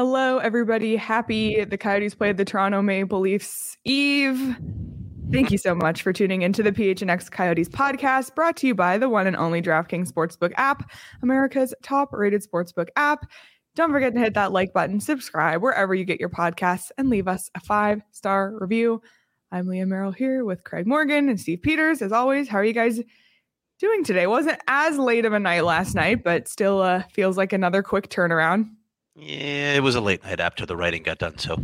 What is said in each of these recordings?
Hello, everybody. Happy the Coyotes played the Toronto Maple Leafs Eve. Thank you so much for tuning into the PHNX Coyotes podcast, brought to you by the one and only DraftKings Sportsbook app, America's top-rated sportsbook app. Don't forget to hit that like button, subscribe wherever you get your podcasts, and leave us a 5-star review. I'm Leah Merrill here with Craig Morgan and Steve Peters. As always, how are you guys doing today? Wasn't as late of a night last night, but still feels like another quick turnaround. Yeah, it was a late night after the writing got done, so.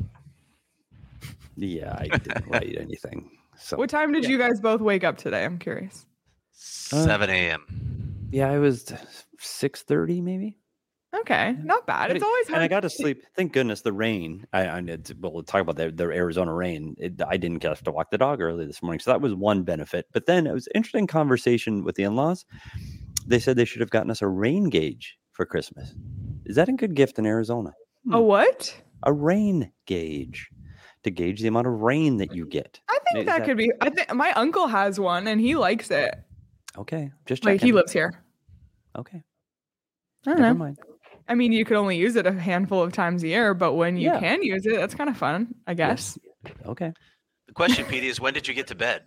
Yeah, I didn't write anything. So. What time did you guys both wake up today? I'm curious. 7 a.m. Yeah, I was 6:30 maybe. Okay, not bad. It's always hard. And I got to sleep. Thank goodness the rain. We'll talk about the Arizona rain. I didn't have to walk the dog early this morning, so that was one benefit. But then it was an interesting conversation with the in-laws. They said they should have gotten us a rain gauge for Christmas. Is that a good gift in Arizona? A what? A rain gauge to gauge the amount of rain that you get. I think that could be. I think my uncle has one and he likes it. Okay, just checking. Like he lives here. Okay. I don't know. Mind. I mean, you could only use it a handful of times a year, but when you can use it, that's kind of fun, I guess. Yes. Okay. The question, Petey, is when did you get to bed?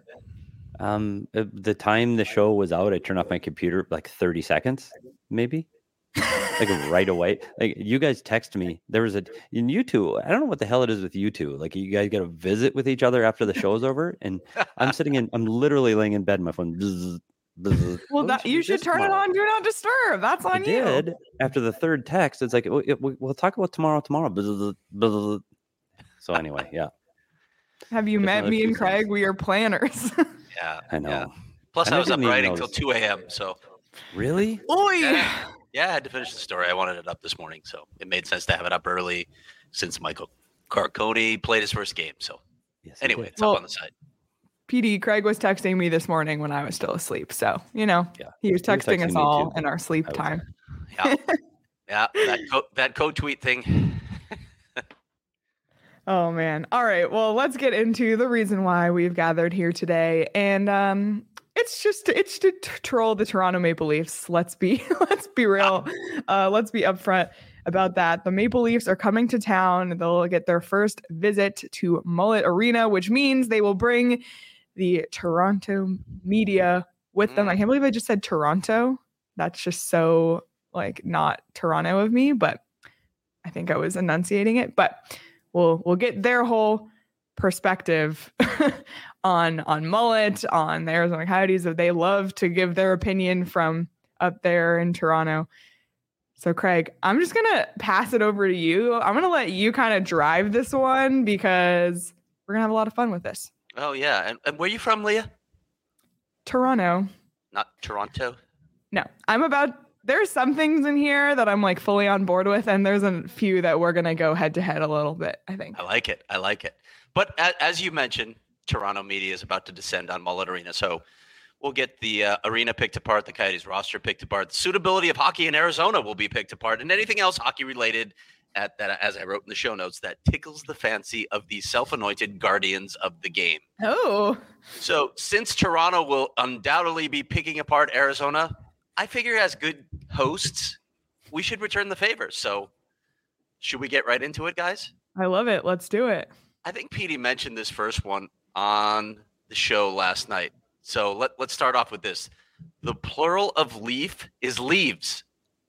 The time the show was out, I turned off my computer like 30 seconds, maybe. Like right away. Like you guys text me. There was in you two. I don't know what the hell it is with you two. Like you guys get a visit with each other after the show's over, and I'm literally laying in buzz, my phone. Bzz, bzz. Well, you should turn it on. Do not disturb. That's on you. I did. After the third text, it's like we'll talk about tomorrow. Bzz, bzz. So anyway, yeah. Have you met me and Craig? We are planners. Yeah, I know. Yeah. Plus, I was up writing till 2 a.m. So really? Oi! Yeah, I had to finish the story. I wanted it up this morning, so it made sense to have it up early since Michael Carcone played his first game. So anyway, it's up on the side. PD, Craig was texting me this morning when I was still asleep. So, he was texting us all in our sleep time. Yeah, that code tweet thing. Oh, man. All right. Well, let's get into the reason why we've gathered here today. And it's to troll the Toronto Maple Leafs. Let's be real. Let's be upfront about that. The Maple Leafs are coming to town. They'll get their first visit to Mullet Arena, which means they will bring the Toronto media with them. I can't believe I just said Toronto. That's just so not Toronto of me, but I think I was enunciating it. But we'll get their whole perspective on Mullet, on the Arizona Coyotes, that they love to give their opinion from up there in Toronto. So Craig, I'm just going to pass it over to you. I'm going to let you kind of drive this one because we're going to have a lot of fun with this. Oh, yeah. And where are you from, Leah? Toronto. Not Toronto? No, there's some things in here that I'm fully on board with, and there's a few that we're going to go head to head a little bit, I think. I like it. But as you mentioned, Toronto media is about to descend on Mullet Arena. So we'll get the arena picked apart, the Coyotes roster picked apart, the suitability of hockey in Arizona will be picked apart, and anything else hockey related that, as I wrote in the show notes, that tickles the fancy of the self-anointed guardians of the game. Oh. So since Toronto will undoubtedly be picking apart Arizona, I figure as good hosts, we should return the favor. So should we get right into it, guys? I love it. Let's do it. I think Petey mentioned this first one on the show last night. So let's start off with this. The plural of leaf is leaves.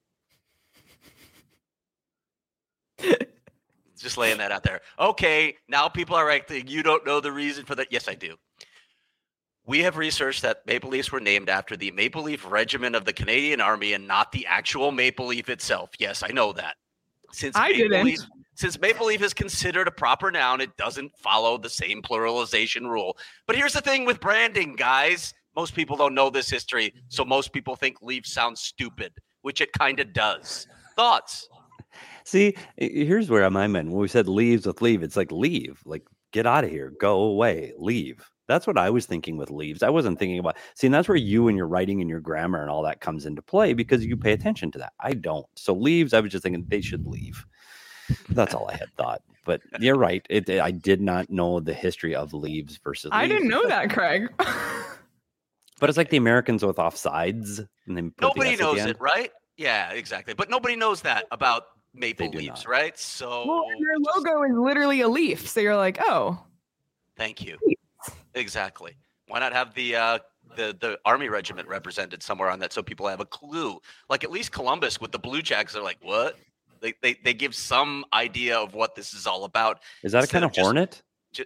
Just laying that out there. Okay, now people are like, you don't know the reason for that. Yes, I do. We have researched that Maple Leafs were named after the Maple Leaf Regiment of the Canadian Army and not the actual Maple Leaf itself. Yes, I know that. Since Maple Leaf is considered a proper noun, it doesn't follow the same pluralization rule. But here's the thing with branding, guys. Most people don't know this history, so most people think Leaf sounds stupid, which it kind of does. Thoughts? See, here's where I'm at. When we said leaves with leave, it's like leave, like get out of here, go away, leave. That's what I was thinking with leaves. I wasn't thinking about, and that's where you and your writing and your grammar and all that comes into play because you pay attention to that. I don't. So leaves, I was just thinking they should leave. That's all I had thought. But you're right. I did not know the history of leaves versus leaves. I didn't know that, Craig. But it's like the Americans with offsides. And then nobody knows it, right? Yeah, exactly. But nobody knows that about Maple do Leafs, not. right? So Well, and their logo is literally a leaf. So you're like, oh, thank you. Exactly. Why not have the Army Regiment represented somewhere on that so people have a clue? Like at least Columbus with the Blue Jackets are like, what? They give some idea of what this is all about. Is that a kind of hornet?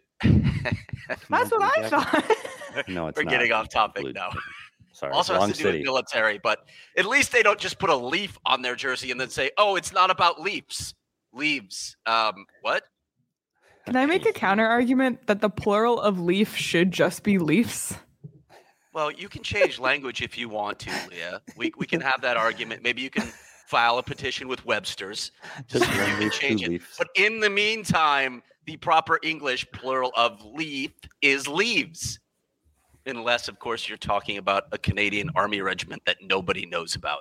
that's what I thought. No, it's We're not. getting off topic Blue- now. Sorry, Also wrong has to do city. with military, but at least they don't just put a leaf on their jersey and then say, "Oh, it's not about leaves." Leaves. What? Can I make a counter argument that the plural of leaf should just be leafs? Well, you can change language if you want to, Leah. We can have that argument. Maybe you can file a petition with Webster's to see if you can change it. But in the meantime, the proper English plural of leaf is leaves. Unless, of course, you're talking about a Canadian Army regiment that nobody knows about.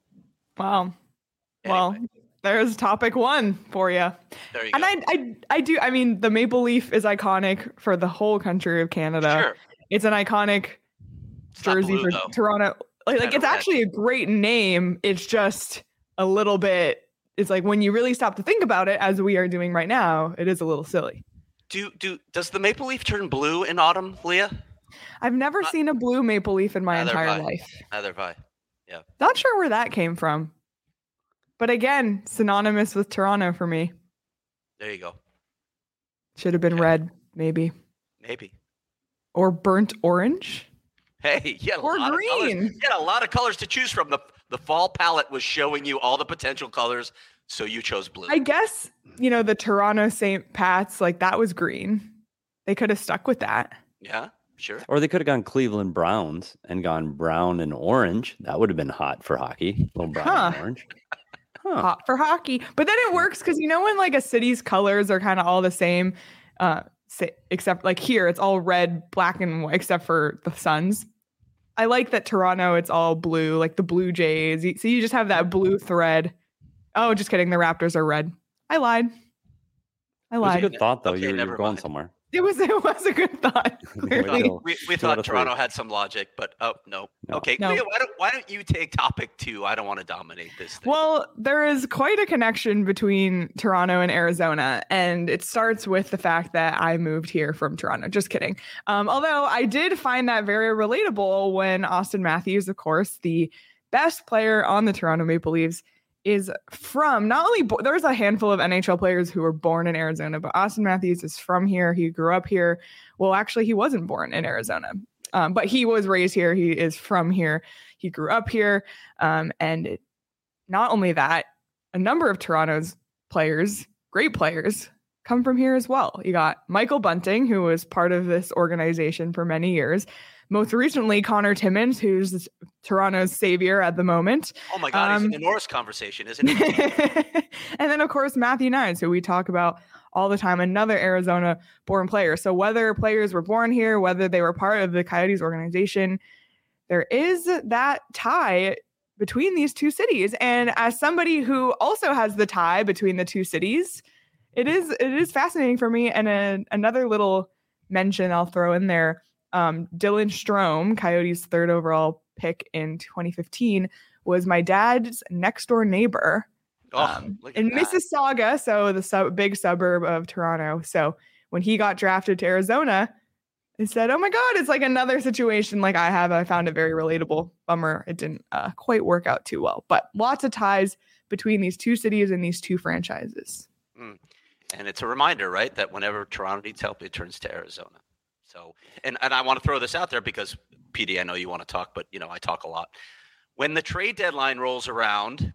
Wow. Anyway. Well, there's topic one for you. There you and go. I do. I mean, the maple leaf is iconic for the whole country of Canada. Sure. It's an iconic jersey blue, for though. Toronto. Like it's actually a great name. It's just a little bit. It's like when you really stop to think about it, as we are doing right now, it is a little silly. Does the maple leaf turn blue in autumn, Leah? I've never seen a blue maple leaf in my Neither entire have I. life. Neither have I. Yeah. Not sure where that came from. But again, synonymous with Toronto for me. There you go. Should have been red, maybe. Maybe. Or burnt orange. Hey, you had a Or lot green. Of colors. You had a lot of colors to choose from. The fall palette was showing you all the potential colors, so you chose blue. I guess, the Toronto St. Pat's, like that was green. They could have stuck with that. Yeah, sure. Or they could have gone Cleveland Browns and gone brown and orange. That would have been hot for hockey. A little brown and orange. Hot for hockey. But then it works because when like a city's colors are kind of all the same, except like here, it's all red, black, and white, except for the Suns. I like that Toronto, it's all blue, like the Blue Jays. So you just have that blue thread. Oh, just kidding. The Raptors are red. I lied. It was a good thought, though. Okay, You're never going mind. somewhere. It was a good thought. Clearly. We thought Toronto had some logic, but no. Okay, No. Leah, why don't you take topic 2? I don't want to dominate this thing. Well, there is quite a connection between Toronto and Arizona, and it starts with the fact that I moved here from Toronto. Just kidding. Although I did find that very relatable when Austin Matthews, of course, the best player on the Toronto Maple Leafs, is from not only there's a handful of NHL players who were born in Arizona, but Austin Matthews is from here. He grew up here. Well, actually, he wasn't born in Arizona, but he was raised here. He is from here. He grew up here. Not only that, a number of Toronto's players, great players, come from here as well. You got Michael Bunting, who was part of this organization for many years. Most recently, Connor Timmins, who's Toronto's savior at the moment. Oh my God, he's in the Norris conversation, isn't he? And then, of course, Matthew Knies, who we talk about all the time, another Arizona-born player. So whether players were born here, whether they were part of the Coyotes organization, there is that tie between these two cities. And as somebody who also has the tie between the two cities, it is fascinating for me. And another little mention I'll throw in there. Dylan Strome, Coyotes' 3rd overall pick in 2015, was my dad's next door neighbor in Mississauga, so the big suburb of Toronto. So when he got drafted to Arizona, I said, "Oh my God, it's like another situation like I have." I found it very relatable. Bummer, it didn't quite work out too well, but lots of ties between these two cities and these two franchises. And it's a reminder, right, that whenever Toronto needs help, it turns to Arizona. So, and I want to throw this out there because, PD, I know you want to talk, but, I talk a lot. When the trade deadline rolls around,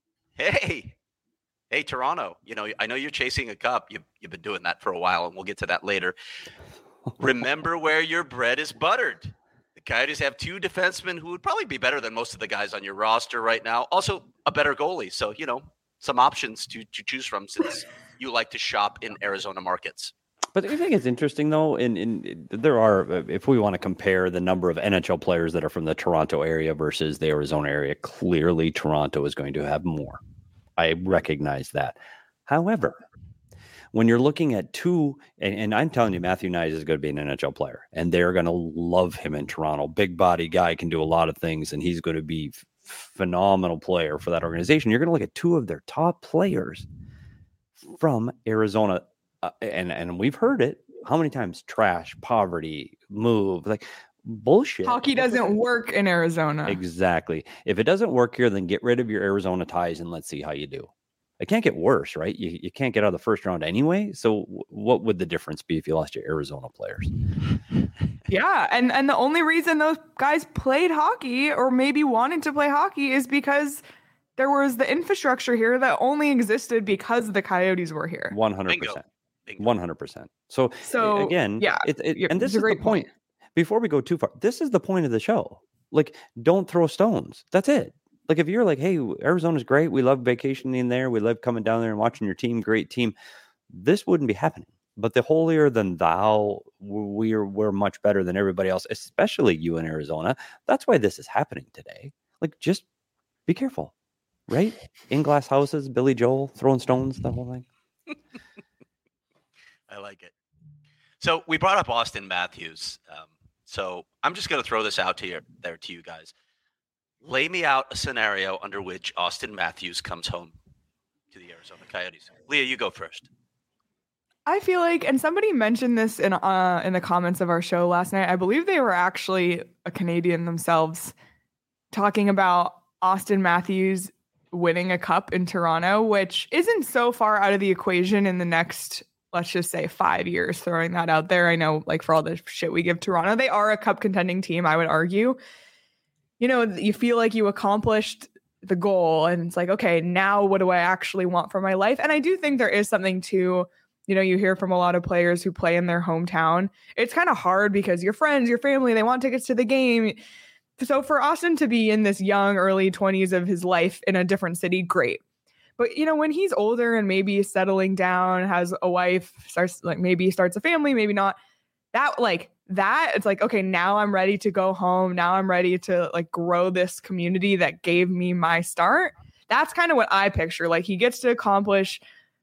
hey, Toronto, I know you're chasing a cup. You've been doing that for a while, and we'll get to that later. Remember where your bread is buttered. The Coyotes have 2 defensemen who would probably be better than most of the guys on your roster right now. Also, a better goalie. So, some options to choose from since you like to shop in Arizona markets. But I think it's interesting, though, there are, if we want to compare the number of NHL players that are from the Toronto area versus the Arizona area, clearly Toronto is going to have more. I recognize that. However, when you're looking at 2, and I'm telling you, Matthew Knies is going to be an NHL player, and they're going to love him in Toronto. Big body guy, can do a lot of things, and he's going to be phenomenal player for that organization. You're going to look at two of their top players from Arizona, and we've heard it how many times: trash, poverty, move, like bullshit. Hockey doesn't work in Arizona. Exactly. If it doesn't work here, then get rid of your Arizona ties and let's see how you do. It can't get worse, right? You can't get out of the first round anyway. So what would the difference be if you lost your Arizona players? Yeah, and the only reason those guys played hockey or maybe wanted to play hockey is because there was the infrastructure here that only existed because the Coyotes were here. 100%. 100%. So again, yeah, and this is the point. Before we go too far, this is the point of the show. Like, don't throw stones. That's it. Like, if you're like, hey, Arizona's great, we love vacationing there, we love coming down there and watching your team, great team, this wouldn't be happening. But the holier than thou, we're much better than everybody else, especially you in Arizona. That's why this is happening today. Like, just be careful, right? In glass houses, Billy Joel throwing stones, the whole thing. I like it. So we brought up Austin Matthews. So I'm just going to throw this out to you guys. Lay me out a scenario under which Austin Matthews comes home to the Arizona Coyotes. Leah, you go first. I feel like, and somebody mentioned this in the comments of our show last night. I believe they were actually a Canadian themselves, talking about Austin Matthews winning a cup in Toronto, which isn't so far out of the equation in the next, let's just say, 5 years, throwing that out there. I know, like, for all the shit we give Toronto, they are a cup contending team, I would argue. You know, you feel like you accomplished the goal and it's like, okay, now what do I actually want for my life? And I do think there is something to, you know, you hear from a lot of players who play in their hometown. It's kind of hard because your friends, your family, they want tickets to the game. So for Austin to be in this young, early 20s of his life in a different city, great. But, you know, when he's older and maybe settling down, has a wife, maybe starts a family, maybe not, it's like, okay, now I'm ready to go home. Now I'm ready to like grow this community that gave me my start. That's kind of what I picture. Like, he gets to accomplish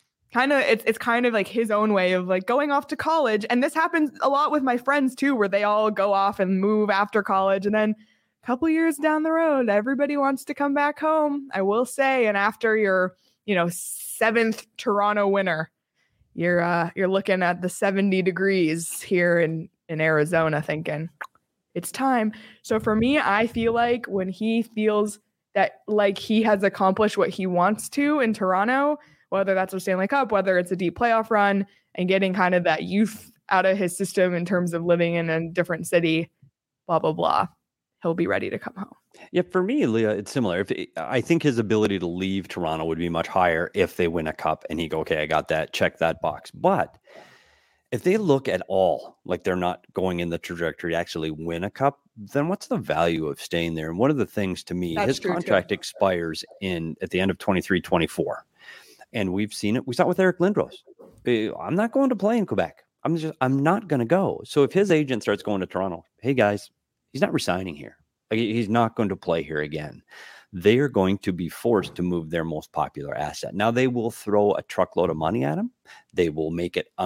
it's kind of like his own way of like going off to college. And this happens a lot with my friends too, where they all go off and move after college. And then a couple years down the road, everybody wants to come back home, I will say. And after your, you know, 7th Toronto winter, you're looking at the 70 degrees here in Arizona thinking it's time. So for me, I feel like when he feels that like he has accomplished what he wants to in Toronto, whether that's a Stanley Cup, whether it's a deep playoff run and getting kind of that youth out of his system in terms of living in a different city, blah, blah, blah, he'll be ready to come home. Yeah, for me, Leah, it's similar. I think his ability to leave Toronto would be much higher if they win a cup and he go, okay, I got that, check that box. But if they look at all like they're not going in the trajectory to actually win a cup, then what's the value of staying there? And one of the things to me, his contract expires at the end of 23-24. And we've seen it. We saw it with Eric Lindros. I'm not going to play in Quebec. I'm not going to go. So if his agent starts going to Toronto, hey guys, he's not resigning here. Like, he's not going to play here again. They are going to be forced to move their most popular asset. Now they will throw a truckload of money at him. They will make it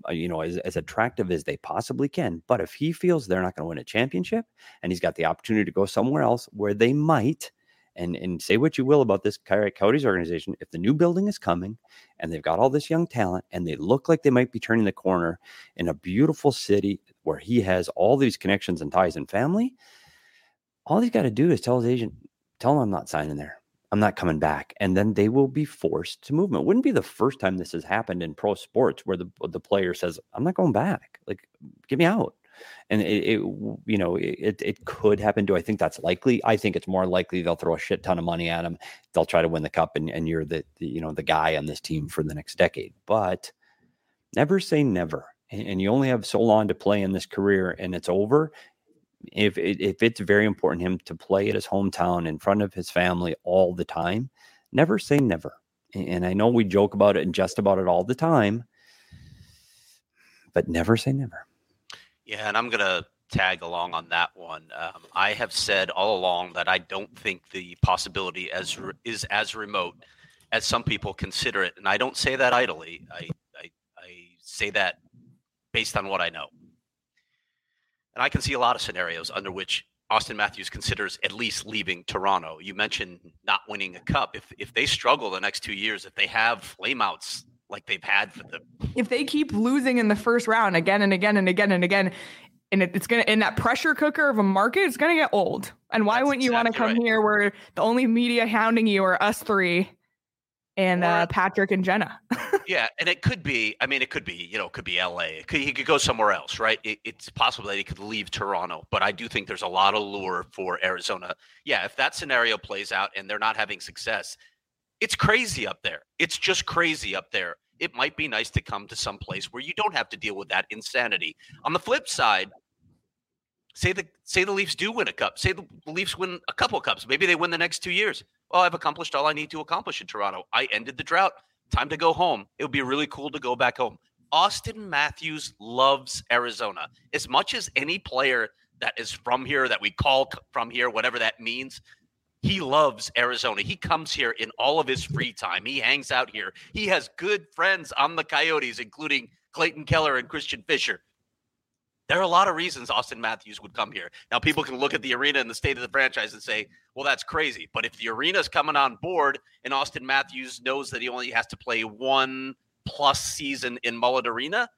as attractive as they possibly can. But if he feels they're not going to win a championship and he's got the opportunity to go somewhere else where they might, and say what you will about this Coyotes organization, if the new building is coming and they've got all this young talent and they look like they might be turning the corner in a beautiful city where he has all these connections and ties and family, all he's got to do is tell his agent, tell him I'm not signing there. I'm not coming back. And then they will be forced to move. It wouldn't be the first time this has happened in pro sports where the player says, I'm not going back. Like, get me out. And it could happen. Do I think that's likely? I think it's more likely they'll throw a shit ton of money at him. They'll try to win the cup and you're the guy on this team for the next decade. But never say never. And you only have so long to play in this career and it's over. If it's very important to him to play at his hometown in front of his family all the time, never say never. And I know we joke about it and jest about it all the time, but never say never. Yeah, and I'm going to tag along on that one. I have said all along that I don't think the possibility is as remote as some people consider it. And I don't say that idly. I say that based on what I know. And I can see a lot of scenarios under which Austin Matthews considers at least leaving Toronto. You mentioned not winning a cup. If they struggle the next 2 years, if they have flameouts like they've had if they keep losing in the first round again and again and again and again, and it's gonna, in that pressure cooker of a market, it's gonna get old. And why wouldn't you want to come here where the only media hounding you are us three and Patrick and Jenna? Yeah, and it could be LA. It could be he could go somewhere else, right? It's possible that he could leave Toronto, but I do think there's a lot of lure for Arizona. Yeah, if that scenario plays out and they're not having success, it's crazy up there. It's just crazy up there. It might be nice to come to some place where you don't have to deal with that insanity. On the flip side, say the Leafs do win a cup. Say the Leafs win a couple of cups. Maybe they win the next 2 years. Well, I've accomplished all I need to accomplish in Toronto. I ended the drought. Time to go home. It would be really cool to go back home. Austin Matthews loves Arizona as much as any player that is from here, that we call from here, whatever that means. He loves Arizona. He comes here in all of his free time. He hangs out here. He has good friends on the Coyotes, including Clayton Keller and Christian Fischer. There are a lot of reasons Austin Matthews would come here. Now, people can look at the arena and the state of the franchise and say, well, that's crazy. But if the arena's coming on board and Austin Matthews knows that he only has to play 1+ season in Mullet Arena,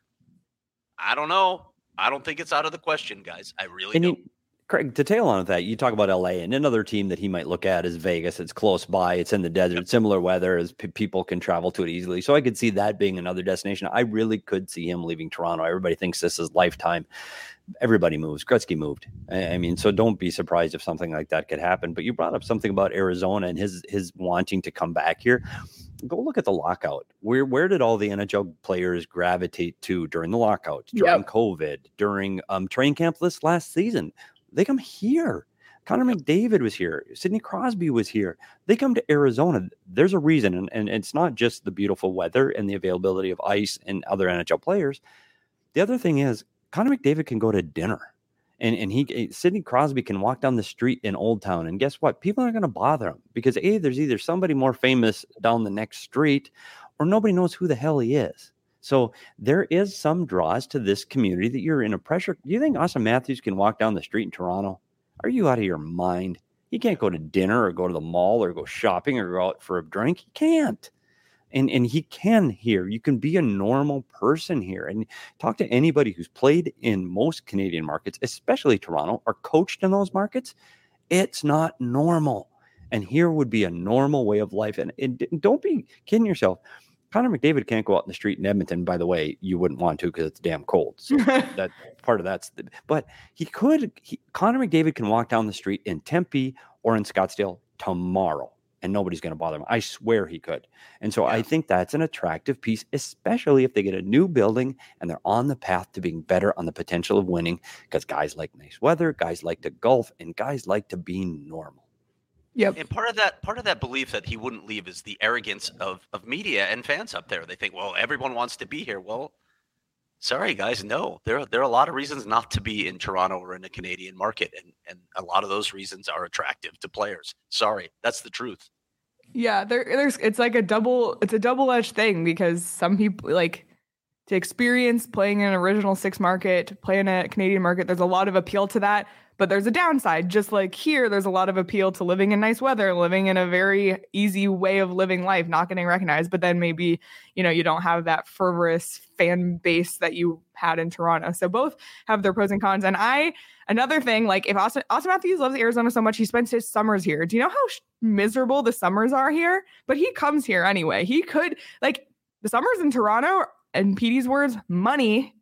I don't know. I don't think it's out of the question, guys. I really don't. Craig, to tail on that, you talk about LA, and another team that he might look at is Vegas. It's close by. It's in the desert, similar weather, as people can travel to it easily. So I could see that being another destination. I really could see him leaving Toronto. Everybody thinks this is lifetime. Everybody moves. Gretzky moved. I mean, so don't be surprised if something like that could happen. But you brought up something about Arizona and his wanting to come back here. Go look at the lockout. Where did all the NHL players gravitate to during the lockout, during COVID, during training camp this last season? They come here. Connor McDavid was here. Sidney Crosby was here. They come to Arizona. There's a reason, and it's not just the beautiful weather and the availability of ice and other NHL players. The other thing is Connor McDavid can go to dinner, and Sidney Crosby can walk down the street in Old Town, and guess what? People aren't going to bother him because there's either somebody more famous down the next street, or nobody knows who the hell he is. So there is some draws to this community that you're in a pressure. Do you think Austin Matthews can walk down the street in Toronto? Are you out of your mind? He can't go to dinner or go to the mall or go shopping or go out for a drink. He can't. And he can here. You can be a normal person here. And talk to anybody who's played in most Canadian markets, especially Toronto, or coached in those markets. It's not normal. And here would be a normal way of life. And don't be kidding yourself. Connor McDavid can't go out in the street in Edmonton. By the way, you wouldn't want to because it's damn cold. So that part of that's. But he could. Connor McDavid can walk down the street in Tempe or in Scottsdale tomorrow, and nobody's going to bother him. I swear he could. And so I think that's an attractive piece, especially if they get a new building and they're on the path to being better, on the potential of winning. Because guys like nice weather, guys like to golf, and guys like to be normal. Yep. And part of that belief that he wouldn't leave is the arrogance of media and fans up there. They think, well, everyone wants to be here. Well, sorry guys, no. There are a lot of reasons not to be in Toronto or in the Canadian market, and a lot of those reasons are attractive to players. Sorry, that's the truth. Yeah, it's like a double-edged thing, because some people like to experience playing in an Original Six market, to play in a Canadian market. There's a lot of appeal to that. But there's a downside. Just like here, there's a lot of appeal to living in nice weather, living in a very easy way of living life, not getting recognized. But then maybe, you don't have that fervorous fan base that you had in Toronto. So both have their pros and cons. And another thing, like if Austin Matthews loves Arizona so much, he spends his summers here. Do you know how miserable the summers are here? But he comes here anyway. He could, like, the summers in Toronto, in Petey's words, money.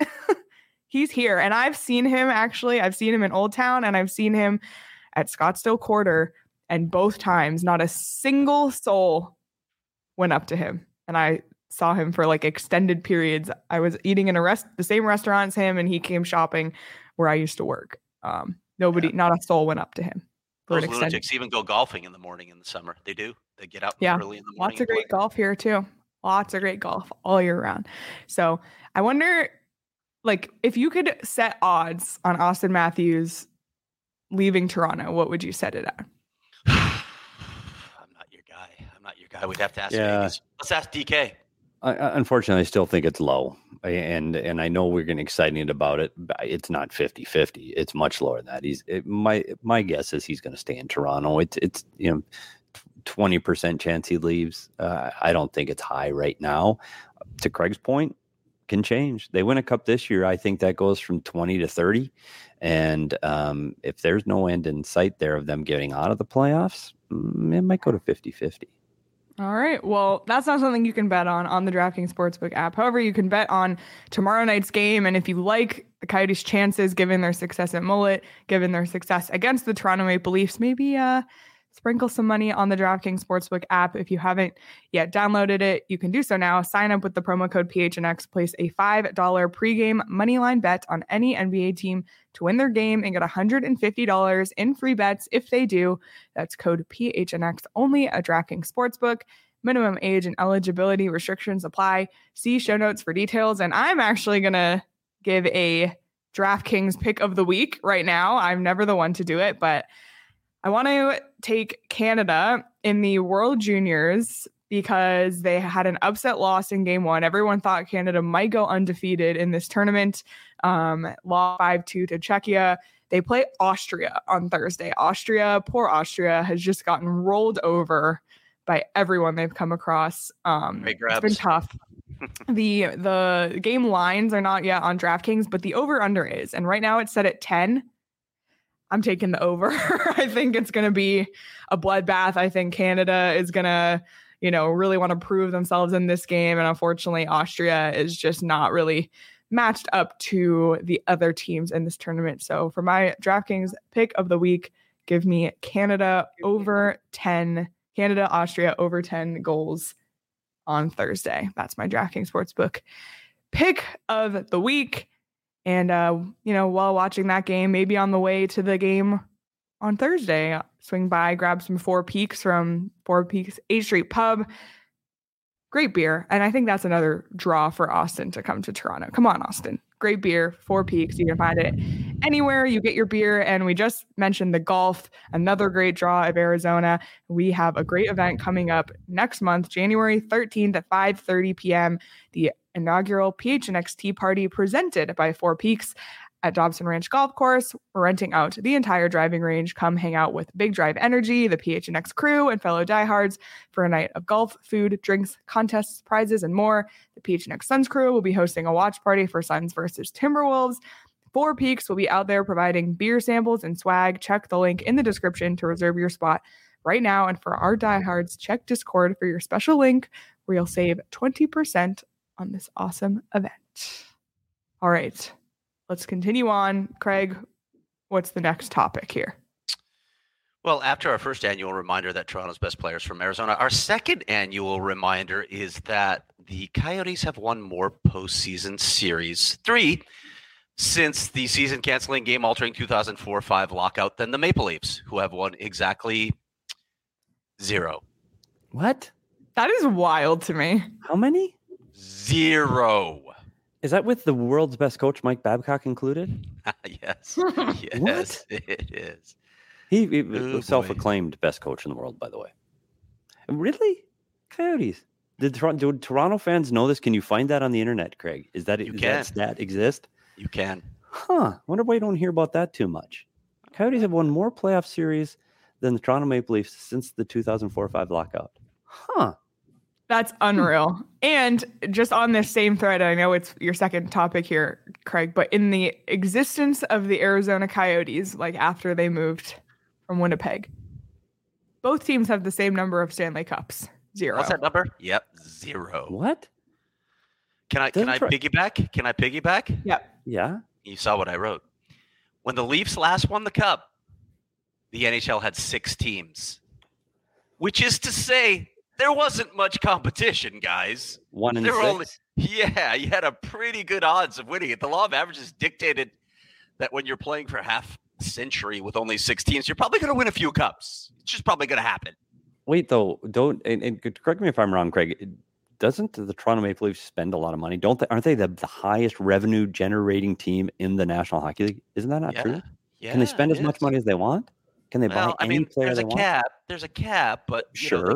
He's here. And I've seen him in Old Town, and I've seen him at Scottsdale Quarter. And both times, not a single soul went up to him. And I saw him for like extended periods. I was eating in the same restaurant as him, and he came shopping where I used to work. Not a soul went up to him. Those lunatics even go golfing in the morning in the summer. They do. They get out early in the morning. Lots of great golf here too. Lots of great golf all year round. So I wonder, like, if you could set odds on Austin Matthews leaving Toronto, what would you set it at? I'm not your guy. We'd have to ask Vegas. Let's ask DK. Unfortunately, I still think it's low, and I know we're getting excited about it, but it's not 50-50. It's much lower than that. My guess is he's going to stay in Toronto. It's 20% chance he leaves. I don't think it's high right now. To Craig's point, can change. They win a cup this year. I think that goes from 20 to 30. And if there's no end in sight there of them getting out of the playoffs, it might go to 50-50. All right. Well, that's not something you can bet on the DraftKings Sportsbook app. However, you can bet on tomorrow night's game. And if you like the Coyotes' chances, given their success at Mullet, given their success against the Toronto Maple Leafs, maybe sprinkle some money on the DraftKings Sportsbook app. If you haven't yet downloaded it, you can do so now. Sign up with the promo code PHNX. Place a $5 pregame moneyline bet on any NBA team to win their game and get $150 in free bets if they do. That's code PHNX only at DraftKings Sportsbook. Minimum age and eligibility restrictions apply. See show notes for details. And I'm actually going to give a DraftKings pick of the week right now. I'm never the one to do it, but I want to take Canada in the World Juniors because they had an upset loss in game one. Everyone thought Canada might go undefeated in this tournament. Lost 5-2 to Czechia. They play Austria on Thursday. Poor Austria, has just gotten rolled over by everyone they've come across. It's been tough. The game lines are not yet on DraftKings, but the over-under is. And right now it's set at 10. I'm taking the over. I think it's going to be a bloodbath. I think Canada is going to, really want to prove themselves in this game. And unfortunately, Austria is just not really matched up to the other teams in this tournament. So for my DraftKings pick of the week, give me Canada, Austria over 10 goals on Thursday. That's my DraftKings Sportsbook pick of the week. And, while watching that game, maybe on the way to the game on Thursday, swing by, grab some Four Peaks from Four Peaks 8th Street Pub. Great beer. And I think that's another draw for Austin to come to Toronto. Come on, Austin. Great beer, Four Peaks. You can find it anywhere you get your beer. And we just mentioned the golf, another great draw of Arizona. We have a great event coming up next month, January 13th at 5:30 p.m. The inaugural PHNX Tea Party presented by Four Peaks at Dobson Ranch Golf Course. We're renting out the entire driving range. Come hang out with Big Drive Energy, the PHNX crew, and fellow diehards for a night of golf, food, drinks, contests, prizes, and more. The PHNX Suns crew will be hosting a watch party for Suns versus Timberwolves. Four Peaks will be out there providing beer samples and swag. Check the link in the description to reserve your spot right now. And for our diehards, check Discord for your special link where you'll save 20% on this awesome event. All right, let's continue on. Craig, what's the next topic here? Well, after our first annual reminder that Toronto's best players from Arizona, our second annual reminder is that the Coyotes have won more postseason series, 3, since the season-canceling, game-altering 2004-5 lockout than the Maple Leafs, who have won exactly 0. What? That is wild to me. How many? 0. Is that with the world's best coach, Mike Babcock, included? Yes. Yes, What? it is. He was self-acclaimed best coach in the world, by the way. Really? Coyotes. Do Toronto fans know this? Can you find that on the internet, Craig? Does that stat exist? You can. Wonder why you don't hear about that too much. Coyotes have won more playoff series than the Toronto Maple Leafs since the 2004-5 lockout. That's unreal. And just on this same thread, I know it's your second topic here, Craig, but in the existence of the Arizona Coyotes, like after they moved from Winnipeg, both teams have the same number of Stanley Cups. 0. What's that number? Yep, 0. What? Can I piggyback? Can I piggyback? Yep. Yeah. You saw what I wrote. When the Leafs last won the Cup, the NHL had 6 teams, which is to say there wasn't much competition, guys. 1 in 6. You had a pretty good odds of winning it. The law of averages dictated that when you're playing for half a century with only 6 teams, you're probably going to win a few cups. It's just probably going to happen. Wait, though, and correct me if I'm wrong, Craig. Doesn't the Toronto Maple Leafs spend a lot of money? Aren't they the highest revenue generating team in the National Hockey League? Isn't that not true? Yeah, can they spend as much money as they want? Can they buy any player there's they a want? cap. There's a cap, but Sure.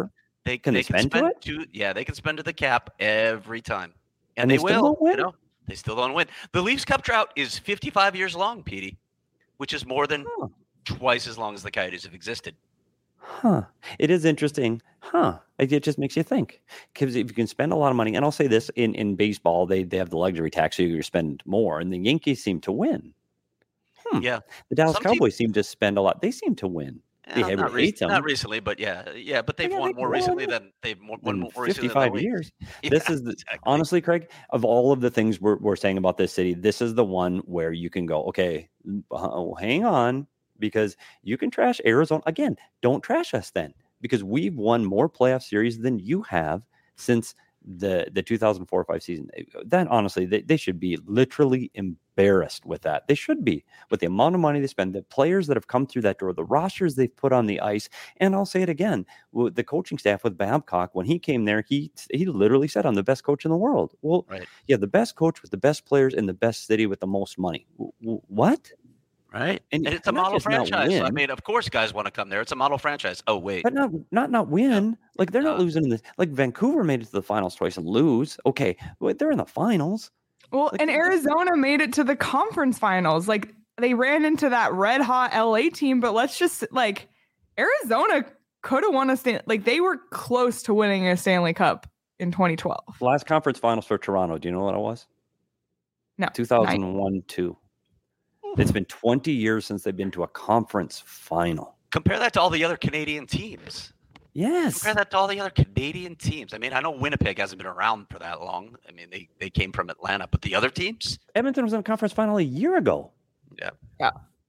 They Can they can spend to spend it? to they can spend to the cap every time, And they they still will. don't win? You know, they still don't win. The Leafs Cup drought is 55 years long, Petey, which is more than Huh. twice as long as the Coyotes have existed. Huh. It is interesting. Huh. It just makes you think. Because if you can spend a lot of money, and I'll say this, in baseball, they have the luxury tax, so you spend more, and the Yankees seem to win. Yeah, The Dallas Some team- Cowboys seem to spend a lot. They seem to win. Everybody hates them. not recently, but but they've Yeah, won they've more won recently than they've won In more recently than 55 the years. Yeah, This is exactly. honestly, Craig, of all of the things we're saying about this city, this is the one where you can go, okay, hang on, because you can trash Arizona. Again, don't trash us then, because we've won more playoff series than you have since the 2004-05 season. That honestly, they should be literally embarrassed with that. They should be, with the amount of money they spend, the players that have come through that door, the rosters they've put on the ice. And I'll say it again, with the coaching staff with Babcock, when he came there, he literally said, I'm the best coach in the world. Well, Right. Yeah, the best coach with the best players in the best city with the most money. What? Right. And It's a not model just not franchise. I win. mean, of course guys want to come there. It's a model franchise. Oh, wait. But not win. Like, they're not No. losing in this. Like, Vancouver made it to the finals twice and lose. Okay, but they're in the finals. Well, Like, and Arizona made it to the conference finals. Like, they ran into that red hot LA team, but let's just like Arizona could have won they were close to winning a Stanley Cup in 2012. Last conference finals for Toronto. Do you know what it was? No. 2001-2. It's been 20 years since they've been to a conference final. Compare that to all the other Canadian teams. Yes. Compare that to all the other Canadian teams. I mean, I know Winnipeg hasn't been around for that long. I mean, they came from Atlanta, but the other teams? Edmonton was in a conference final a year ago. Yeah.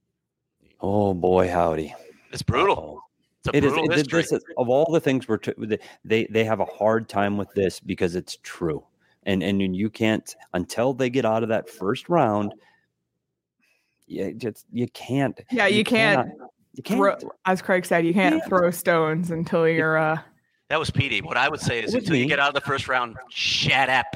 Oh, boy, howdy. It's brutal. Uh-oh. It's a brutal history. This is, of all the things they have a hard time with this because it's true. And you can't, until they get out of that first round, you can't. Yeah, you can't. You can't. As Craig said, you can't throw stones until you're. That was Petey. What I would say is, It was until you me. get out of the first round, shut up.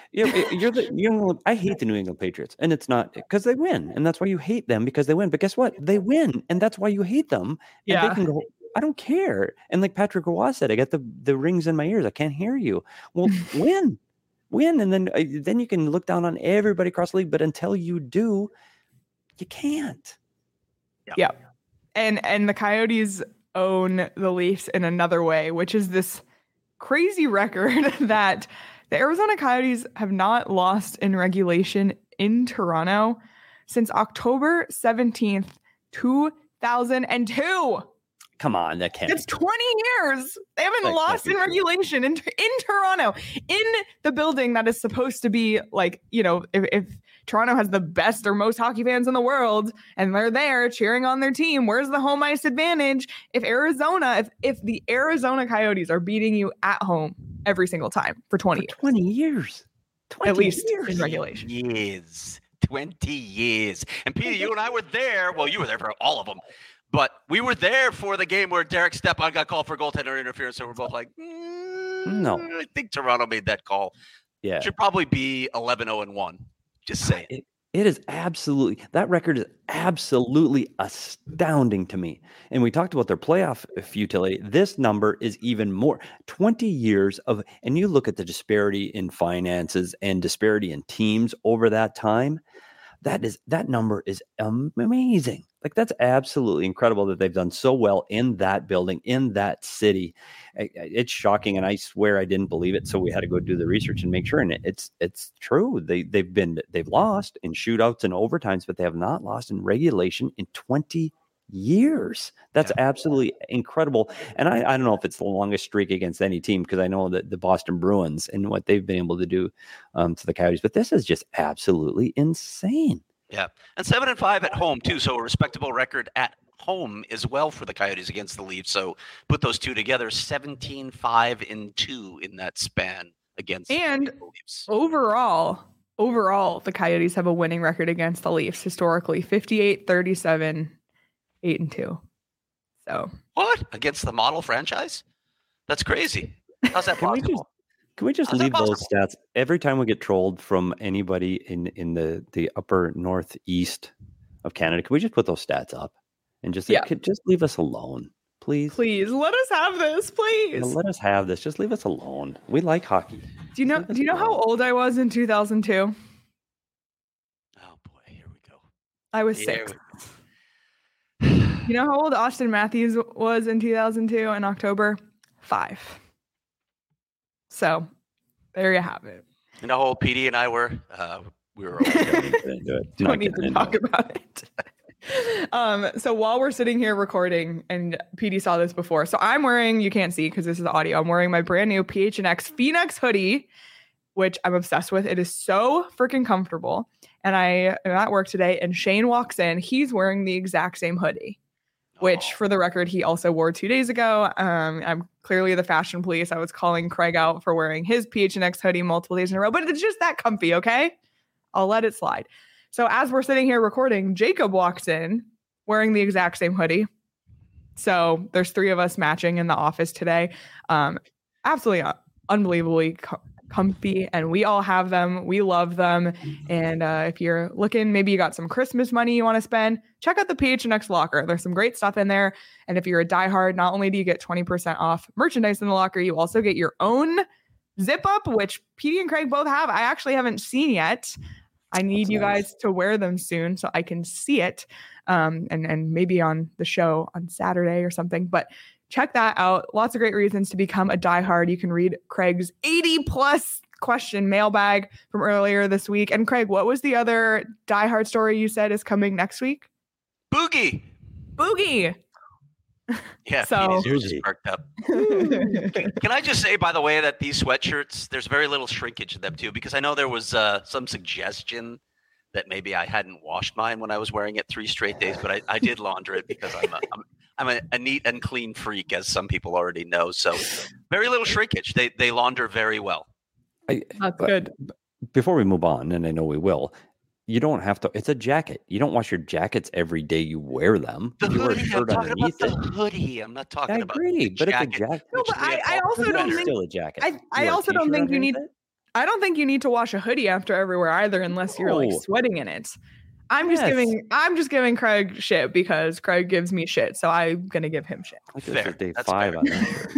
I hate the New England Patriots, and it's not because they win, and that's why you hate them, because they win. But guess what? They win, and that's why you hate them. And Yeah. they can go, I don't care. And like Patrick Roy said, I got the rings in my ears. I can't hear you. Well, win, and then you can look down on everybody across the league. But until you do, you can't. Yeah. And the Coyotes own the Leafs in another way, which is this crazy record that the Arizona Coyotes have not lost in regulation in Toronto since October 17th, 2002. Come on, that can't. It's 20 years. They haven't That lost can't in be true. regulation in Toronto, in the building that is supposed to be like, if Toronto has the best or most hockey fans in the world and they're there cheering on their team, where's the home ice advantage? If the Arizona Coyotes are beating you at home every single time for 20 years. 20 years. 20 At least years. in regulation. Years. 20 years. And Peter, you and I were there. Well, you were there for all of them. But we were there for the game where Derek Stepan got called for goaltender interference. So we're both like, No. I think Toronto made that call. Yeah. Should probably be 11-0-1. Just saying. It is absolutely, that record is absolutely astounding to me. And we talked about their playoff futility. This number is even more. 20 years of, and you look at the disparity in finances and disparity in teams over that time. That number is amazing. Like, that's absolutely incredible that they've done so well in that building, in that city. It's shocking, and I swear I didn't believe it. So we had to go do the research and make sure. And it's true. They've lost in shootouts and overtimes, but they have not lost in regulation in 20 years. That's absolutely incredible. And I don't know if it's the longest streak against any team, because I know that the Boston Bruins and what they've been able to do to the Coyotes, but this is just absolutely insane. Yeah. And 7-5 at home, too. So a respectable record at home as well for the Coyotes against the Leafs. So put those two together, 17-5-2 in that span against And the Leafs. Overall, the Coyotes have a winning record against the Leafs historically, 58-37, 8-2. So What? Against the model franchise? That's crazy. How's that possible? Can we just How's that leave those possible? stats every time we get trolled from anybody in the upper northeast of Canada? Can we just put those stats up and just Yeah. just leave us alone? Please. Please let us have this, please. Let us have this. Just leave us alone. We like hockey. Do you know how old I was in 2002? Oh boy, here we go. I was 6. You know how old Austin Matthews was in 2002 in October? 5. So there you have it. You know how old PD and I were? We were. Don't need to talk about it. So while we're sitting here recording, and PD saw this before, so I'm wearing, you can't see because this is audio, I'm wearing my brand new PHNX Phoenix hoodie, which I'm obsessed with. It is so freaking comfortable. And I am at work today, and Shane walks in. He's wearing the exact same hoodie, which for the record, he also wore 2 days ago. I'm clearly the fashion police. I was calling Craig out for wearing his PHNX hoodie multiple days in a row, but it's just that comfy, okay? I'll let it slide. So as we're sitting here recording, Jacob walks in wearing the exact same hoodie. So there's 3 of us matching in the office today. Absolutely unbelievably comfy, and we all have them. We love them. And if you're looking, maybe you got some Christmas money you want to spend, check out the PHNX locker. There's some great stuff in there. And if you're a diehard, not only do you get 20% off merchandise in the locker, you also get your own zip up, which PD and Craig both have. I actually haven't seen yet. I need you guys to wear them soon so I can see it, and maybe on the show on Saturday or something. But check that out. Lots of great reasons to become a diehard. You can read Craig's 80+ question mailbag from earlier this week. And Craig, what was the other diehard story you said is coming next week? Boogie. Yeah, so just perked up. Can I just say, by the way, that these sweatshirts, there's very little shrinkage in them too, because I know there was some suggestion that maybe I hadn't washed mine when I was wearing it 3 straight days, but I did launder it because I'm a neat and clean freak, as some people already know. So very little shrinkage. They launder very well. That's good. Before we move on, and I know we will, you don't have to. It's a jacket. You don't wash your jackets every day you wear them. The you hoodie, wear a shirt I'm talking underneath about it. the hoodie. I'm not talking about agree, but it's a jacket. No, but I also don't think still a jacket. I also don't think you need. I don't think you need to wash a hoodie after everywhere either, unless you're like sweating in it. I'm just giving Craig shit because Craig gives me shit, so I'm gonna give him shit. Fair. Day 5 on that.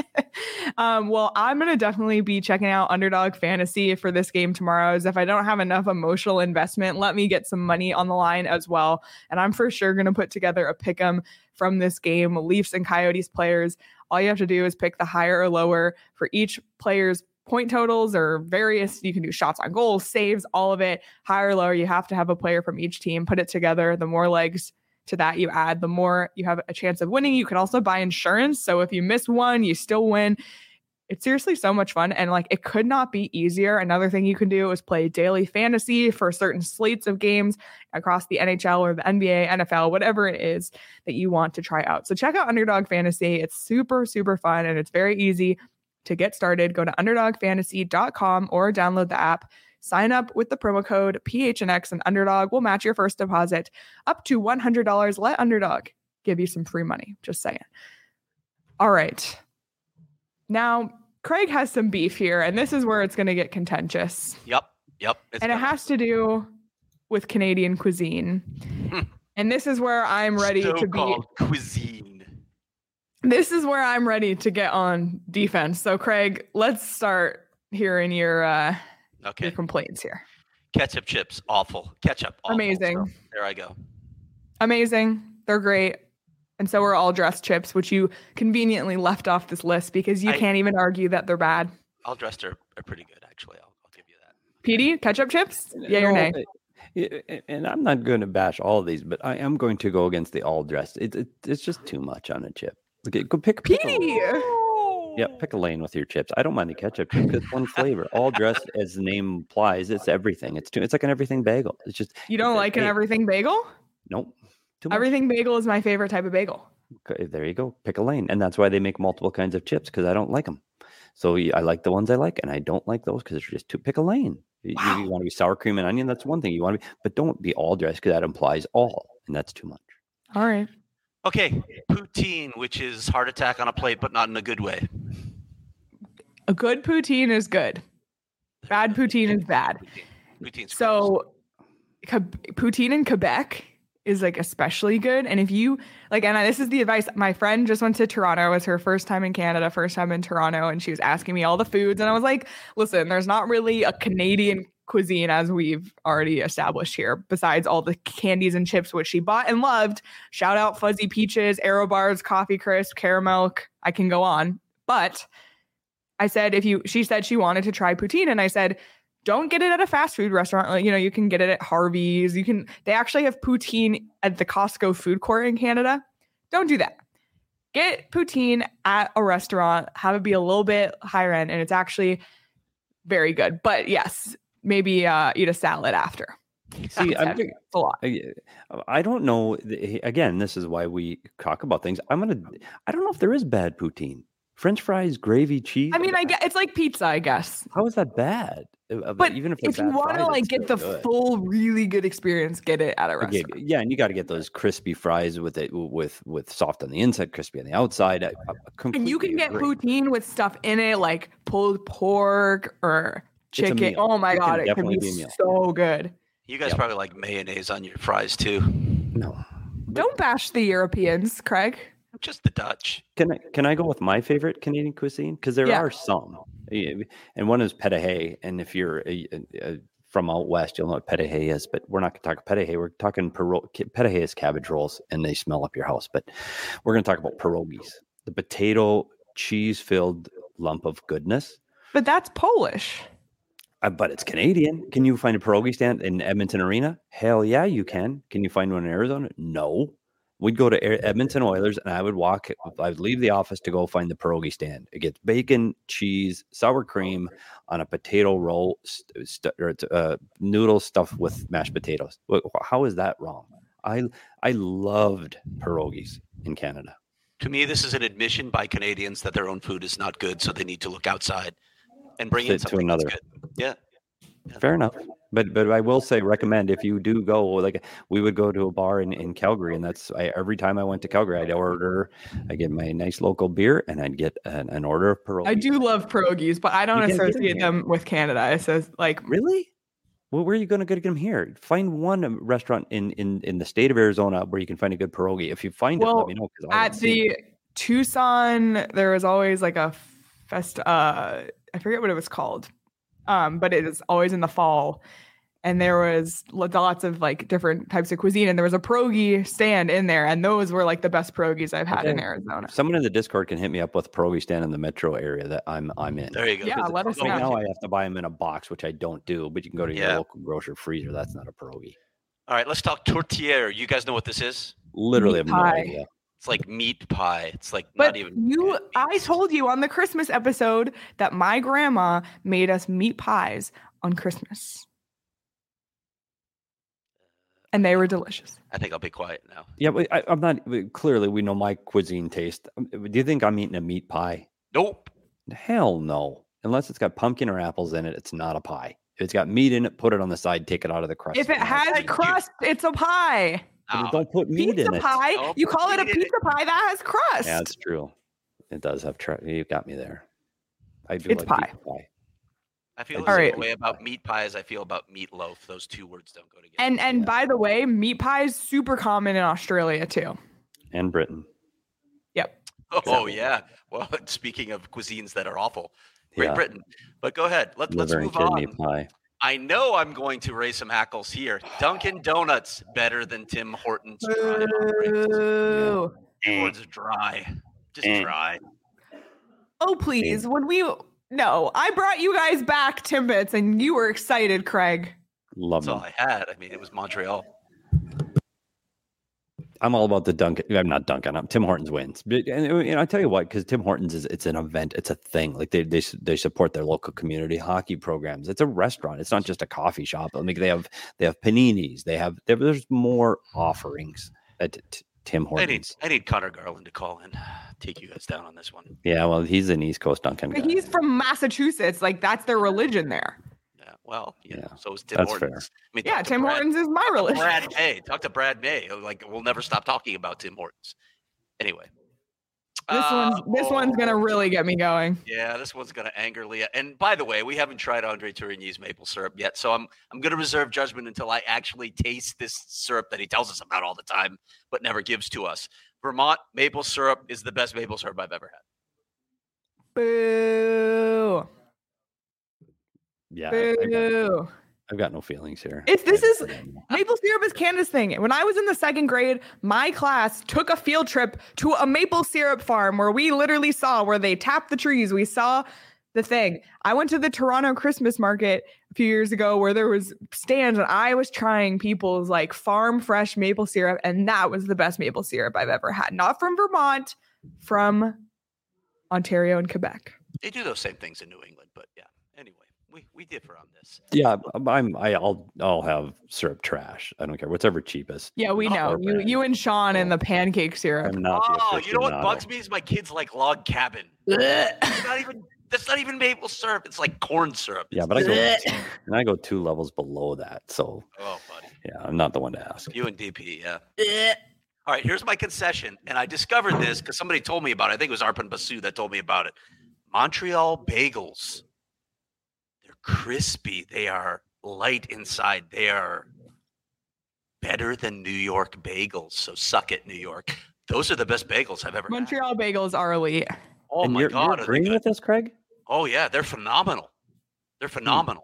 Well, I'm going to definitely be checking out Underdog Fantasy for this game tomorrow. As if I don't have enough emotional investment, let me get some money on the line as well. And I'm for sure going to put together a pick'em from this game. Leafs and Coyotes players. All you have to do is pick the higher or lower for each player's point totals or various. You can do shots on goals, saves, all of it. Higher or lower, you have to have a player from each team. Put it together. The more legs to that you add, the more you have a chance of winning. You can also buy insurance. So if you miss one, you still win. It's seriously so much fun. And like, it could not be easier. Another thing you can do is play daily fantasy for certain slates of games across the NHL or the NBA, NFL, whatever it is that you want to try out. So check out Underdog Fantasy. It's super, super fun. And it's very easy to get started. Go to underdogfantasy.com or download the app. Sign up with the promo code PHNX, and Underdog will match your first deposit up to $100. Let Underdog give you some free money. Just saying. All right. Now, Craig has some beef here, and this is where it's going to get contentious. Yep. And it has to do with Canadian cuisine. And this is where I'm ready to be. Cuisine. This is where I'm ready to get on defense. So, Craig, let's start hearing your complaints here. Ketchup chips, awful. Ketchup, awful. Amazing. So, there I go. Amazing. They're great. And so are all dressed chips, which you conveniently left off this list because you can't even argue that they're bad. All dressed are pretty good, actually. I'll give you that. PD, ketchup chips? Yeah or nay? And I'm not going to bash all of these, but I am going to go against the all dressed. It's just too much on a chip. Okay, go pick PD. Pick a lane with your chips. I don't mind the ketchup chip because it's one flavor. All dressed, as the name implies, it's everything. It's like an everything bagel. It's just you don't like an everything bagel? Nope. Everything bagel is my favorite type of bagel. Okay, there you go. Pick a lane. And that's why they make multiple kinds of chips, because I don't like them. So I like the ones I like, and I don't like those because it's just too. Pick a lane. Wow. You want to be sour cream and onion, that's one thing you want to be, but don't be all dressed because that implies all, and that's too much. All right. Okay, poutine, which is heart attack on a plate, but not in a good way. A good poutine is good. Bad poutine is bad. Poutine's so poutine in Quebec is like especially good. And if you like, and this is the advice, my friend just went to Toronto. It was her first time in Canada, first time in Toronto. And she was asking me all the foods. And I was like, listen, there's not really a Canadian cuisine as we've already established here, besides all the candies and chips, which she bought and loved. Shout out Fuzzy Peaches, Aero Bars, Coffee Crisp, Caramel. I can go on. But I said, she said she wanted to try poutine. And I said, don't get it at a fast food restaurant. Like, you can get it at Harvey's. They actually have poutine at the Costco food court in Canada. Don't do that. Get poutine at a restaurant, have it be a little bit higher end, and it's actually very good. But yes, maybe eat a salad after. See, it's a lot. I don't know. Again, this is why we talk about things. I don't know if there is bad poutine. French fries, gravy, cheese. I mean, it's like pizza, I guess. How is that bad? But even if you want to like get the full, really good experience, get it at a restaurant. Yeah, and you got to get those crispy fries with soft on the inside, crispy on the outside. And you can get poutine with stuff in it, like pulled pork or chicken. Oh my God, it can be so good. You guys probably like mayonnaise on your fries too. No. Don't bash the Europeans, Craig. Just the Dutch. Can I go with my favorite Canadian cuisine? Because there are some. And one is pâté hâte. And if you're from out west, you'll know what pâté hâte is. But we're not going to talk pâté hâte. We're talking pâté hâte is cabbage rolls, and they smell up your house. But we're going to talk about pierogies, the potato cheese-filled lump of goodness. But that's Polish. But it's Canadian. Can you find a pierogi stand in Edmonton Arena? Hell yeah, you can. Can you find one in Arizona? No. We'd go to Edmonton Oilers, and I would leave the office to go find the pierogi stand. It gets bacon, cheese, sour cream on a potato roll, noodle stuffed with mashed potatoes. How is that wrong? I loved pierogies in Canada. To me, this is an admission by Canadians that their own food is not good, so they need to look outside and bring in something that's good. Yeah. Fair enough. But I will say, recommend if you do go, like we would go to a bar in Calgary, and every time I went to Calgary, I'd get my nice local beer, and I'd get an order of pierogies. I do love pierogies, but I don't associate them with Canada. It says like, really? Well, where are you going to get them here? Find one restaurant in the state of Arizona where you can find a good pierogi. If you find it, let me know. At the Tucson, there was always like a I forget what it was called. But it is always in the fall, and there was lots of like different types of cuisine, and there was a pierogi stand in there, and those were like the best pierogies I've had in Arizona. Someone in the Discord can hit me up with a pierogi stand in the metro area that I'm in. There you go. Yeah, let us know. Right now I have to buy them in a box, which I don't do, but you can go to your local grocery freezer. That's not a pierogi. All right, let's talk tourtière. You guys know what this is? Literally have no idea. It's like meat pie. It's like not even. I told you on the Christmas episode that my grandma made us meat pies on Christmas, and they were delicious. I think I'll be quiet now. Yeah, but I'm not. Clearly, we know my cuisine taste. Do you think I'm eating a meat pie? Nope. Hell no. Unless it's got pumpkin or apples in it, it's not a pie. If it's got meat in it, put it on the side. Take it out of the crust. If it has crust, it's a pie. Don't put meat in it. Pie. You call it a pizza pie that has crust. Yeah, that's true. It does have you got me there. I do it's like pie. Pizza pie. I feel the same way about meat pie as I feel about meatloaf. Those two words don't go together. And by the way, meat pie is super common in Australia too. And Britain. Yep. Oh yeah. Well, speaking of cuisines that are awful, Great Britain. But go ahead. Let's move on. Pie. I know I'm going to raise some hackles here. Dunkin' Donuts better than Tim Hortons dry. Hortons dry. Just dry. Oh, please. I brought you guys back Timbits, and you were excited, Craig. Love That's all I had. I mean, it was Montreal. I'm all about the Dunkin'. I'm not Dunkin'. Tim Hortons wins. But, and I tell you what, because Tim Hortons it's an event. It's a thing. Like they support their local community hockey programs. It's a restaurant. It's not just a coffee shop. I mean, they have paninis. There's more offerings at Tim Hortons. I need Connor Garland to call in, take you guys down on this one. Yeah, well, he's an East Coast Dunkin' guy. He's from Massachusetts. Like that's their religion there. Well, so is Tim Hortons. Fair. I mean, Tim Hortons is my religion. Brad May. Talk to Brad May. Like, we'll never stop talking about Tim Hortons. Anyway. This one's gonna really get me going. Yeah, this one's gonna anger Leah. And by the way, we haven't tried Andre Tourigny's maple syrup yet, so I'm gonna reserve judgment until I actually taste this syrup that he tells us about all the time, but never gives to us. Vermont maple syrup is the best maple syrup I've ever had. Boo! Yeah, Boo! I've got no feelings here. Maple syrup is Canada's thing. When I was in the second grade, my class took a field trip to a maple syrup farm where we literally saw where they tapped the trees. We saw the thing. I went to the Toronto Christmas market a few years ago where there was stands and I was trying people's like farm fresh maple syrup, and that was the best maple syrup I've ever had. Not from Vermont, from Ontario and Quebec. They do those same things in New England, but yeah. Anyway, we differ on this. Yeah, I'll have syrup trash. I don't care. Whatever's cheapest. Yeah, we know. You and Sean and the pancake syrup. I'm not the you know what bugs me is my kids like log cabin. That's not even maple syrup. It's like corn syrup. Yeah, but I go 2 levels below that. So, buddy. Yeah, I'm not the one to ask. You and DP, yeah. All right, here's my concession, and I discovered this because somebody told me about it. I think it was Arpan Basu that told me about it. Montreal bagels. They're crispy. They are light inside. They are better than New York bagels. So suck it, New York. Those are the best bagels I've ever had. Montreal bagels are elite. Oh, my God. You're agreeing with this, Craig? Oh, yeah. They're phenomenal. They're phenomenal.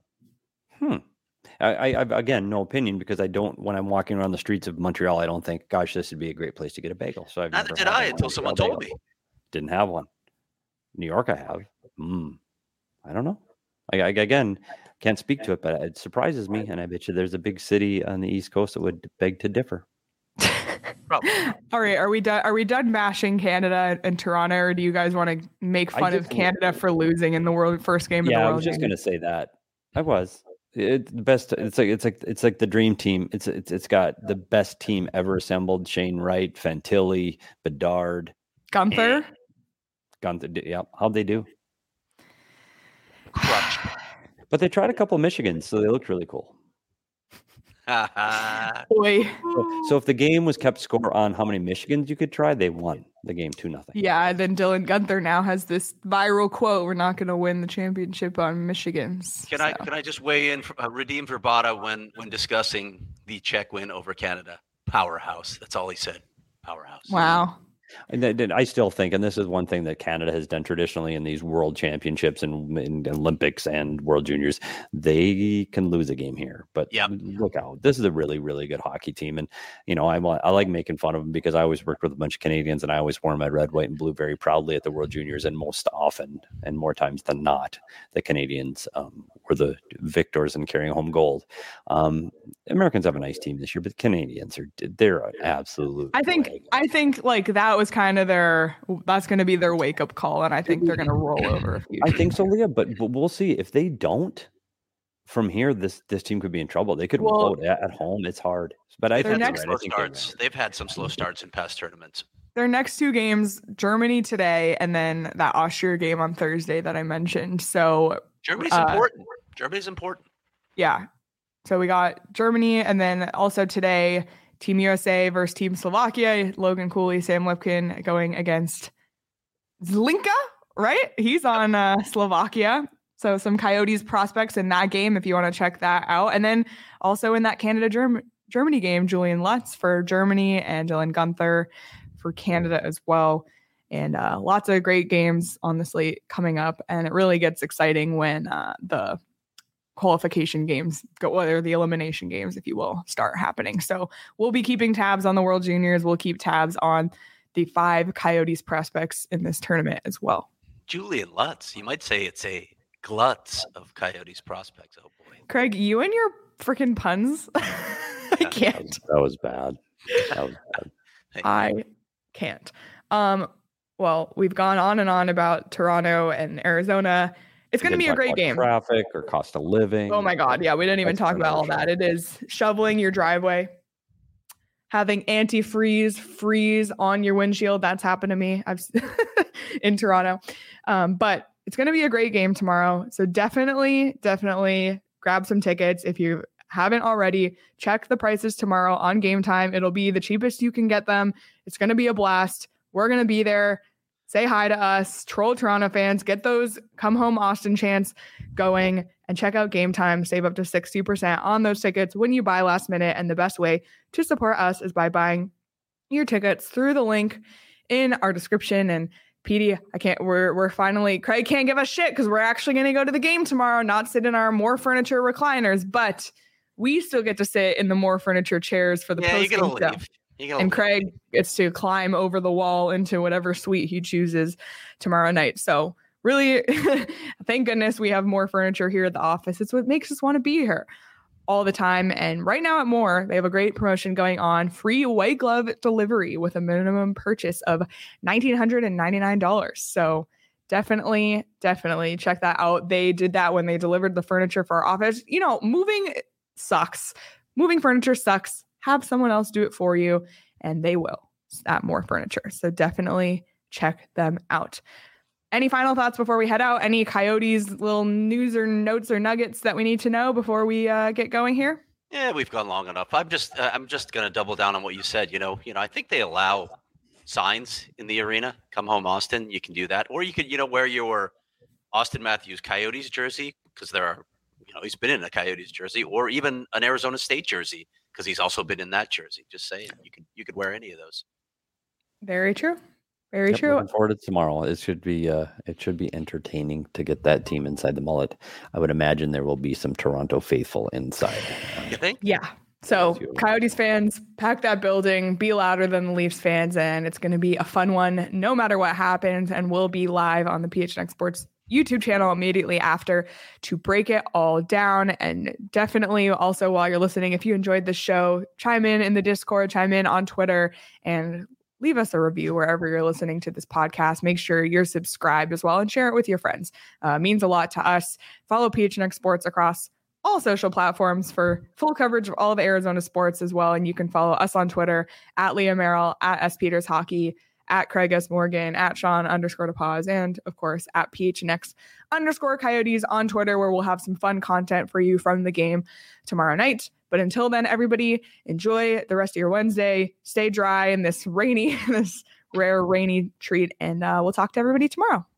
I again, no opinion because when I'm walking around the streets of Montreal, I don't think, gosh, this would be a great place to get a bagel. So neither did I until someone told me. Didn't have one. New York, I have. I don't know. I again can't speak to it, but it surprises me, and I bet you there's a big city on the East Coast that would beg to differ. Probably. All right, are we done? Are we done bashing Canada and Toronto, or do you guys want to make fun of Canada for losing in the first game of the World? Yeah, I was just going to say that. I was. It's the best. It's like the dream team. It's got the best team ever assembled. Shane Wright, Fantilli, Bedard, Gunther. Yeah, how'd they do? Crushed. But they tried a couple of Michigans, so they looked really cool. Boy. So if the game was kept score on how many Michigans you could try, they won the game 2-0. Yeah, then Dylan Gunther now has this viral quote: "We're not going to win the championship on Michigans." Can I just weigh in, redeem Verbata when discussing the Czech win over Canada? Powerhouse. That's all he said. Powerhouse. Wow. And I still think, and this is one thing that Canada has done traditionally in these world championships and in Olympics and World Juniors, they can lose a game here. But look out, this is a really, really good hockey team. And, I like making fun of them because I always worked with a bunch of Canadians and I always wore my red, white, and blue very proudly at the World Juniors. And most often, and more times than not, the Canadians were the victors and carrying home gold. Americans have a nice team this year, but the Canadians they're an absolute. I think like that was kind of that's going to be their wake up call, and I think they're going to roll over. I think so, Leah, but we'll see if they don't. From here, this team could be in trouble. They could vote at home. It's hard, but I think slow starts. They've had some slow starts in past tournaments. Their next 2 games, Germany today, and then that Austria game on Thursday that I mentioned. So Germany's important. Germany's important. Yeah. So we got Germany, and then also today, Team USA versus Team Slovakia. Logan Cooley, Sam Lipkin going against Zlinka, right? He's on Slovakia. So some Coyotes prospects in that game if you want to check that out. And then also in that Canada-Germany game, Julian Lutz for Germany and Dylan Gunther for Canada as well. And lots of great games on the slate coming up. And it really gets exciting when the qualification games or the elimination games, if you will, start happening. So we'll be keeping tabs on the World Juniors. We'll keep tabs on the 5 Coyotes prospects in this tournament as well. Julian Lutz, you might say it's a glutz of Coyotes prospects. Oh boy. Craig, you and your freaking puns. I can't. That was bad. I can't. Well, we've gone on and on about Toronto and Arizona. It's going to be a great game. Traffic or cost of living. Oh my God. Yeah. We didn't even talk about all that. It is shoveling your driveway, having freeze on your windshield. That's happened to me. In Toronto. But it's going to be a great game tomorrow. So definitely grab some tickets. If you haven't already, check the prices tomorrow on Game Time. It'll be the cheapest you can get them. It's going to be a blast. We're going to be there. say hi to us, troll Toronto fans, get those come home Austin chants going, and check out Game Time. Save up to 60% on those tickets when you buy last minute. And the best way to support us is by buying your tickets through the link in our description. And PD, we're finally, Craig can't give us shit because we're actually going to go to the game tomorrow, not sit in our More Furniture recliners, but we still get to sit in the More Furniture chairs for the post-game stuff. And Craig gets to climb over the wall into whatever suite he chooses tomorrow night. So really, thank goodness we have More Furniture here at the office. It's what makes us want to be here all the time. And right now at More, they have a great promotion going on, free white glove delivery with a minimum purchase of $1,999. So definitely check that out. They did that when they delivered the furniture for our office. You know, moving sucks. Moving furniture sucks. Have someone else do it for you, and they will at More Furniture. So definitely check them out. Any final thoughts before we head out? Any Coyotes little news or notes or nuggets that we need to know before we get going here? Yeah, we've gone long enough. I'm just going to double down on what you said. You know, I think they allow signs in the arena. Come home, Austin. You can do that, or you could, wear your Austin Matthews Coyotes jersey because there are, he's been in a Coyotes jersey, or even an Arizona State jersey because he's also been in that jersey. Just saying, you could wear any of those. Very true. Very true. Looking forward to tomorrow. It should be entertaining to get that team inside the mullet. I would imagine there will be some Toronto faithful inside. You think? Yeah. So Coyotes fans, pack that building, be louder than the Leafs fans, and it's going to be a fun one no matter what happens. And we'll be live on the PHNX Sports YouTube channel immediately after to break it all down. And definitely also while you're listening, if you enjoyed the show, chime in the Discord, chime in on Twitter, and leave us a review wherever you're listening to this podcast. Make sure you're subscribed as well and share it with your friends. Means a lot to us. Follow PHNX Sports across all social platforms for full coverage of all the Arizona sports as well. And you can follow us on Twitter at Leah Merrill, at S Peters Hockey, at Craig S. Morgan, at Sean_DePaz, and of course at PHNX_Coyotes on Twitter, where we'll have some fun content for you from the game tomorrow night. But until then, everybody, enjoy the rest of your Wednesday. Stay dry in this rare rainy treat, and we'll talk to everybody tomorrow.